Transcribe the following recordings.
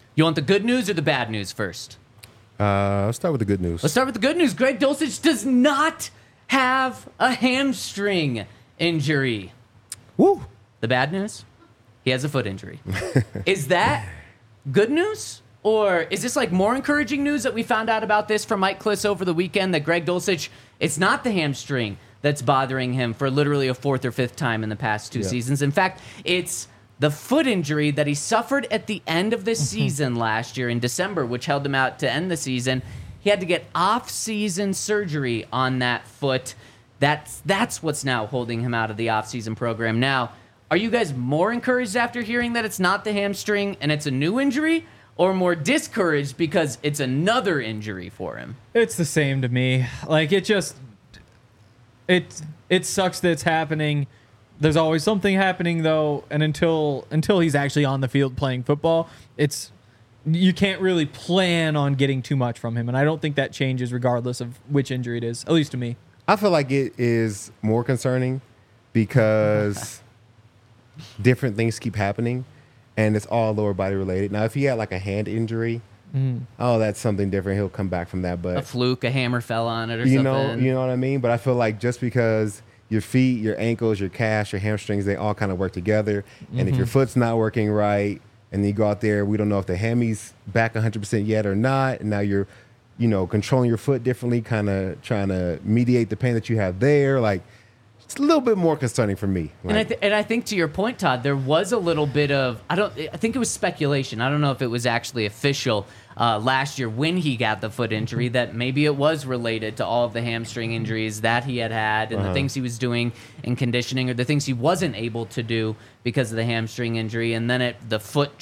You want the good news or the bad news first? Let's start with the good news. Let's start with the good news. Greg Dulcich does not have a hamstring injury. Woo! The bad news? He has a foot injury. Is that good news? Or is this like more encouraging news that we found out about this from Mike Klis over the weekend that Greg Dulcich, it's not the hamstring that's bothering him for literally a fourth or fifth time in the past two seasons. In fact, it's the foot injury that he suffered at the end of the season last year in December, which held him out to end the season. He had to get off-season surgery on that foot. That's what's now holding him out of the off-season program. Now, are you guys more encouraged after hearing that it's not the hamstring and it's a new injury, or more discouraged because it's another injury for him? It's the same to me. Like, it sucks that it's happening. There's always something happening, though, and until he's actually on the field playing football, you can't really plan on getting too much from him, and I don't think that changes regardless of which injury it is, at least to me. I feel like it is more concerning because different things keep happening, and it's all lower body related. Now, if he had like a hand injury, that's something different. He'll come back from that. But a fluke, a hammer fell on it or something. You know what I mean? But I feel like just because your feet, your ankles, your calves, your hamstrings, they all kind of work together. And if your foot's not working right, and then you go out there, we don't know if the hammy's back 100% yet or not, and now you're, controlling your foot differently, kind of trying to mediate the pain that you have there. Like, it's a little bit more concerning for me. Like, And I think to your point, Todd, there was a little bit of, I think it was speculation. I don't know if it was actually official last year when he got the foot injury that maybe it was related to all of the hamstring injuries that he had and the things he was doing in conditioning or the things he wasn't able to do because of the hamstring injury. And then the foot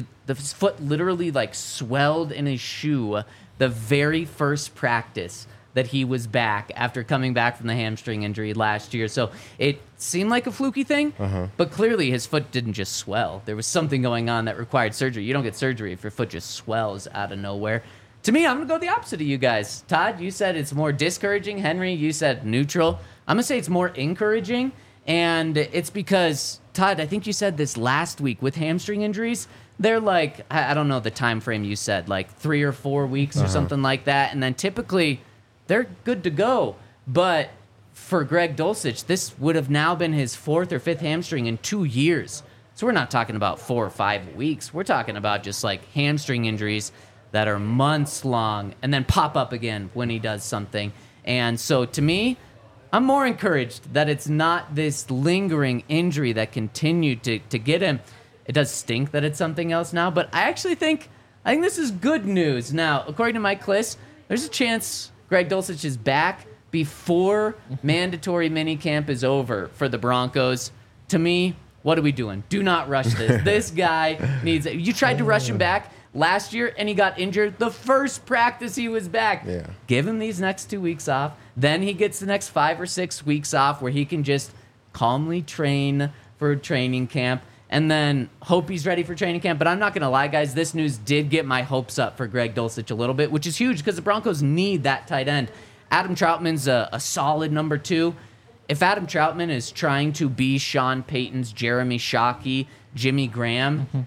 literally like swelled in his shoe the very first practice that he was back after coming back from the hamstring injury last year. So it seemed like a fluky thing, but clearly his foot didn't just swell. There was something going on that required surgery. You don't get surgery if your foot just swells out of nowhere. To me, I'm going to go the opposite of you guys. Todd, you said it's more discouraging. Henry, you said neutral. I'm going to say it's more encouraging, and it's because, Todd, I think you said this last week with hamstring injuries, they're like, I don't know the time frame you said, like 3 or 4 weeks or something like that, and then typically they're good to go. But for Greg Dulcich, this would have now been his 4th or 5th hamstring in 2 years. So we're not talking about 4 or 5 weeks. We're talking about just like hamstring injuries that are months long and then pop up again when he does something. And so to me, I'm more encouraged that it's not this lingering injury that continued to get him. It does stink that it's something else now, but I think this is good news. Now, according to Mike Klis, there's a chance Greg Dulcich is back before mandatory minicamp is over for the Broncos. To me, what are we doing? Do not rush this. This guy needs it. You tried to rush him back last year, and he got injured the first practice he was back. Yeah. Give him these next 2 weeks off. Then he gets the next 5 or 6 weeks off where he can just calmly train for training camp and then hope he's ready for training camp. But I'm not going to lie, guys. This news did get my hopes up for Greg Dulcich a little bit, which is huge because the Broncos need that tight end. Adam Troutman's a solid number 2. If Adam Troutman is trying to be Sean Payton's Jeremy Shockey, Jimmy Graham,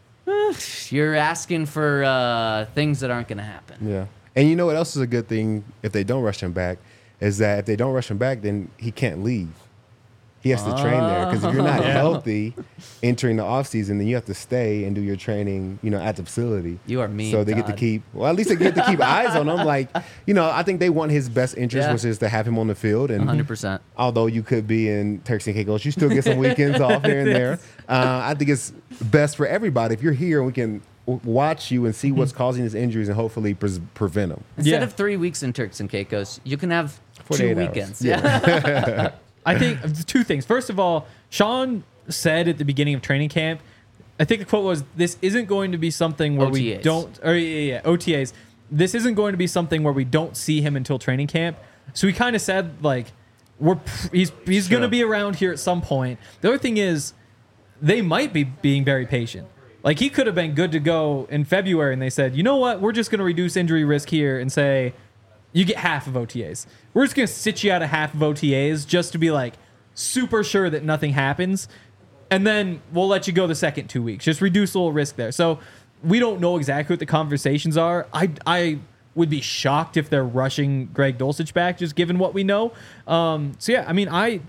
you're asking for things that aren't going to happen. Yeah. And you know what else is a good thing if they don't rush him back is that if they don't rush him back, then he can't leave. He has to train there because if you're not healthy entering the offseason, then you have to stay and do your training, at the facility. You are mean, So they get to keep, at least they get to keep eyes on him. Like, I think they want his best interest, which is to have him on the field. And 100%. Although you could be in Turks and Caicos, you still get some weekends off here and there. I think it's best for everybody. If you're here and we can watch you and see what's causing his injuries and hopefully prevent them. Instead of 3 weeks in Turks and Caicos, you can have 2 weekends. Yeah. I think 2 things. First of all, Sean said at the beginning of training camp, I think the quote was, "This isn't going to be something where OTAs. we don't." Or OTAs. This isn't going to be something where we don't see him until training camp. So he kind of said like, he's going to be around here at some point. The other thing is, they might be being very patient. Like he could have been good to go in February, and they said, "You know what? We're just going to reduce injury risk here and say." You get half of OTAs. We're just going to sit you out of half of OTAs just to be like super sure that nothing happens. And then we'll let you go the second 2 weeks. Just reduce a little risk there. So we don't know exactly what the conversations are. I would be shocked if they're rushing Greg Dulcich back, just given what we know. So yeah, I mean,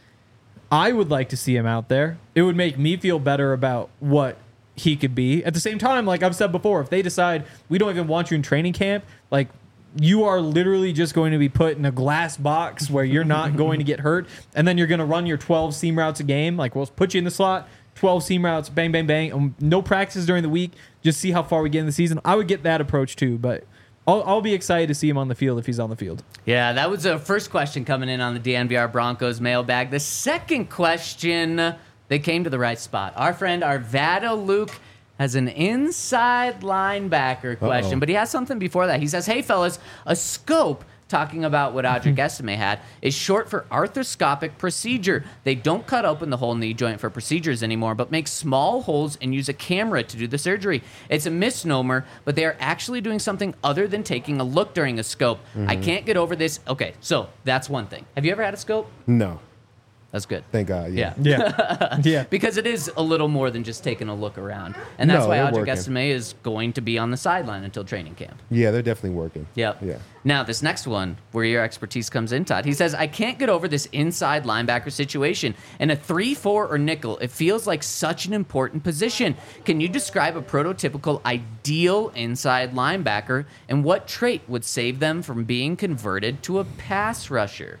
I would like to see him out there. It would make me feel better about what he could be. At the same time, like I've said before, if they decide we don't even want you in training camp, like you are literally just going to be put in a glass box where you're not going to get hurt, and then you're going to run your 12 seam routes a game. Like we'll put you in the slot, 12 seam routes, bang, bang, bang. No practices during the week. Just see how far we get in the season. I would get that approach too, but I'll be excited to see him on the field if he's on the field. Yeah, that was the first question coming in on the DNVR Broncos mailbag. The second question, they came to the right spot. Our friend Arvada Luke has an inside linebacker question, but he has something before that. He says, hey, fellas, a scope, talking about what Audric Estime had, is short for arthroscopic procedure. They don't cut open the whole knee joint for procedures anymore, but make small holes and use a camera to do the surgery. It's a misnomer, but they are actually doing something other than taking a look during a scope. I can't get over this. Okay, so that's one thing. Have you ever had a scope? No. That's good. Thank God. Yeah. Yeah. Because it is a little more than just taking a look around. And that's why Audric Estime is going to be on the sideline until training camp. Yeah, they're definitely working. Yep. Yeah. Now, this next one, where your expertise comes in, Todd. He says, I can't get over this inside linebacker situation. In a 3-4 or nickel, it feels like such an important position. Can you describe a prototypical ideal inside linebacker, and what trait would save them from being converted to a pass rusher?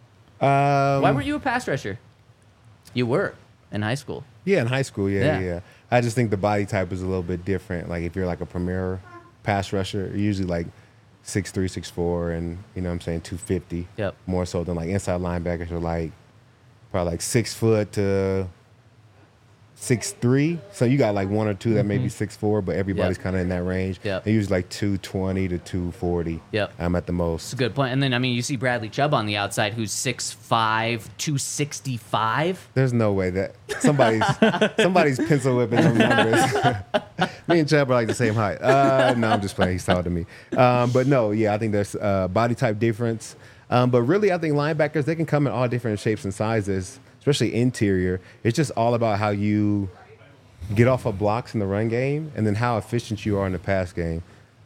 Why weren't you a pass rusher? You were in high school. Yeah, in high school, yeah. I just think the body type is a little bit different. Like if you're like a premier pass rusher, you're usually like 6'3", 6'4", and you know what I'm saying, 250. Yep. More so than like inside linebackers are like probably like 6 foot to 6'3". So you got like one or two that may be 6'4", but everybody's kind of in that range. Yep. They're usually like 220 to 240. Yep. At the most. It's a good point. And then, I mean, you see Bradley Chubb on the outside, who's 6'5", 265. There's no way that somebody's pencil whipping those numbers. Me and Chubb are like the same height. No, I'm just playing. He's taller than me. But no, yeah, I think there's body type difference. But really, I think linebackers, they can come in all different shapes and sizes, especially interior. It's just all about how you get off of blocks in the run game and then how efficient you are in the pass game.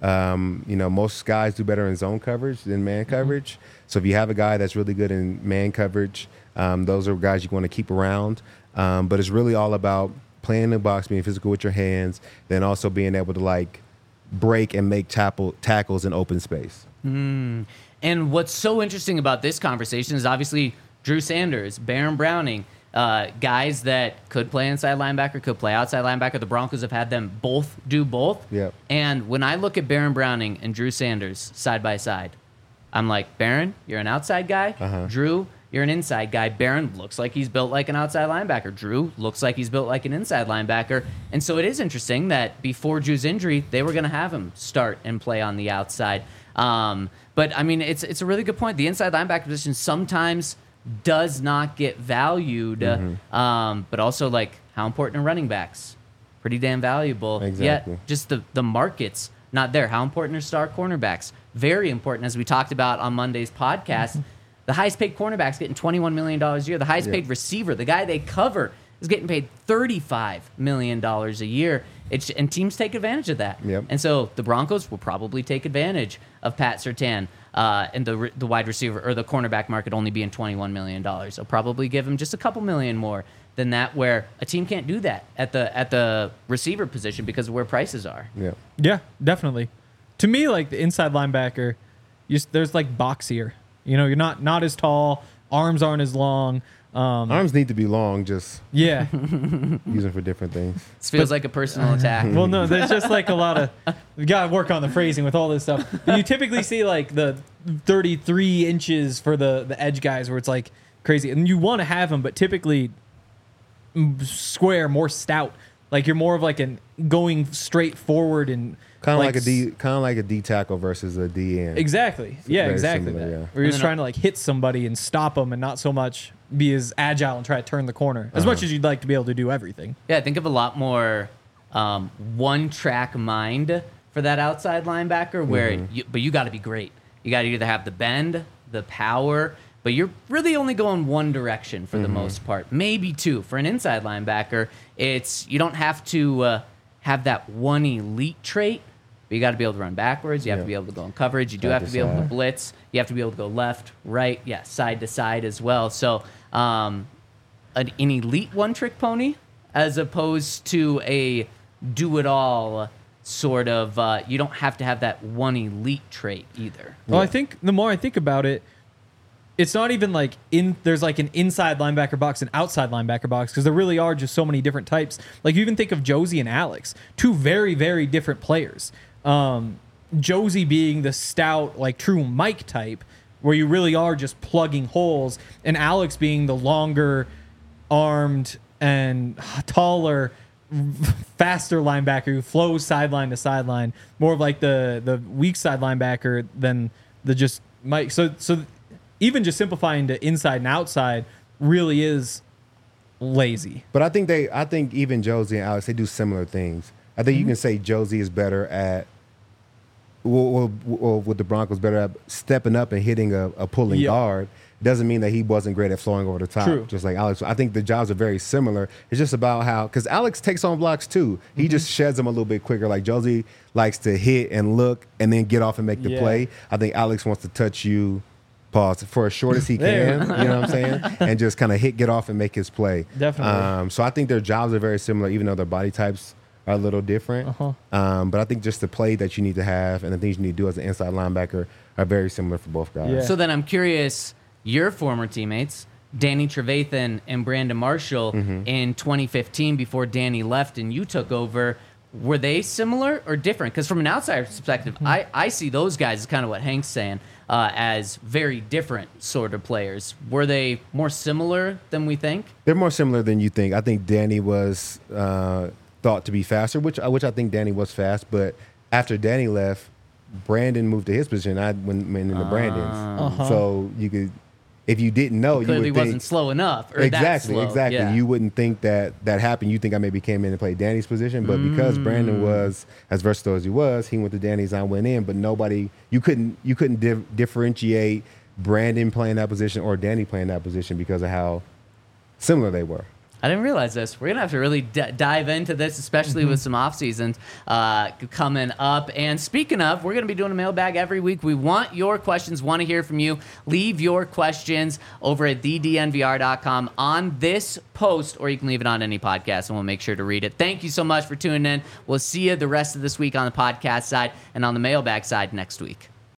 Most guys do better in zone coverage than man coverage. So if you have a guy that's really good in man coverage, those are guys you want to keep around. But it's really all about playing in the box, being physical with your hands, then also being able to like break and make tackles in open space. And what's so interesting about this conversation is obviously Drew Sanders, Baron Browning, guys that could play inside linebacker, could play outside linebacker. The Broncos have had them both do both. Yep. And when I look at Baron Browning and Drew Sanders side by side, I'm like, Baron, you're an outside guy. Drew, you're an inside guy. Baron looks like he's built like an outside linebacker. Drew looks like he's built like an inside linebacker. And so it is interesting that before Drew's injury, they were going to have him start and play on the outside. But, I mean, it's a really good point. The inside linebacker position sometimes does not get valued, but also, like, how important are running backs? Pretty damn valuable. Exactly. Yet, just the market's not there. How important are star cornerbacks? Very important, as we talked about on Monday's podcast. The highest paid cornerback's getting $21 million a year. The highest paid receiver, the guy they cover, is getting paid $35 million a year. And teams take advantage of that. Yep. And so the Broncos will probably take advantage of Pat Surtain and the wide receiver or the cornerback market only being $21 million. They'll probably give him just a couple million more than that, where a team can't do that at the receiver position because of where prices are. Yeah, definitely. To me, like the inside linebacker, there's like boxier. You know, you're not as tall. Arms aren't as long. Arms need to be long, just yeah. use them for different things. This feels like a personal attack. Well, no, there's just like a lot of, we got to work on the phrasing with all this stuff. But you typically see like the 33 inches for the edge guys where it's like crazy. And you want to have them, but typically square, more stout. Like you're more of like an going straight forward and kind of like a D tackle versus a D end. Exactly. Yeah, exactly. Similar, yeah. Where you're just trying to like hit somebody and stop them and not so much be as agile and try to turn the corner as much as you'd like to be able to do everything. Yeah, I think of a lot more one-track mind for that outside linebacker where you got to be great. You got to either have the bend, the power, but you're really only going one direction for the most part. Maybe two. For an inside linebacker, you don't have to have that one elite trait. But you got to be able to run backwards. You have to be able to go in coverage. You do have to be able to blitz. You have to be able to go left, right, side to side as well. So an elite one-trick pony as opposed to a do-it-all sort of, you don't have to have that one elite trait either. Well, I think the more I think about it, it's not even like there's like an inside linebacker box and outside linebacker box, because there really are just so many different types. Like you even think of Josie and Alex, two very, very different players. Josie being the stout, like true Mike type, where you really are just plugging holes, and Alex being the longer armed and taller, faster linebacker who flows sideline to sideline, more of like the weak side linebacker than the just Mike. So even just simplifying to inside and outside really is lazy. But I think even Josie and Alex, they do similar things. I think you can say Josie is better at, with the Broncos, better at stepping up and hitting a pulling guard. Doesn't mean that he wasn't great at flowing over the top, just like Alex. I think the jobs are very similar. It's just about how, because Alex takes on blocks too. He just sheds them a little bit quicker. Like Josie likes to hit and look and then get off and make the play. I think Alex wants to touch you, pause, for as short as he can, you know what I'm saying? And just kind of get off and make his play. Definitely. So I think their jobs are very similar, even though their body types are a little different. But I think just the play that you need to have and the things you need to do as an inside linebacker are very similar for both guys. Yeah. So then I'm curious, your former teammates, Danny Trevathan and Brandon Marshall, in 2015, before Danny left and you took over, were they similar or different? Because from an outsider's perspective, I see those guys as kind of what Hank's saying, as very different sort of players. Were they more similar than we think? They're more similar than you think. I think Danny was thought to be faster, which I think Danny was fast. But after Danny left, Brandon moved to his position. I went into Brandon's. So you could, if you didn't know, you Clearly would think, wasn't slow enough. Or exactly, that slow. Yeah. You wouldn't think that happened. You think I maybe came in and played Danny's position, but because Brandon was as versatile as he went to Danny's. I went in, but you couldn't differentiate Brandon playing that position or Danny playing that position because of how similar they were. I didn't realize this. We're going to have to really dive into this, especially with some off seasons coming up. And speaking of, we're going to be doing a mailbag every week. We want your questions, want to hear from you. Leave your questions over at thednvr.com on this post, or you can leave it on any podcast, and we'll make sure to read it. Thank you so much for tuning in. We'll see you the rest of this week on the podcast side and on the mailbag side next week.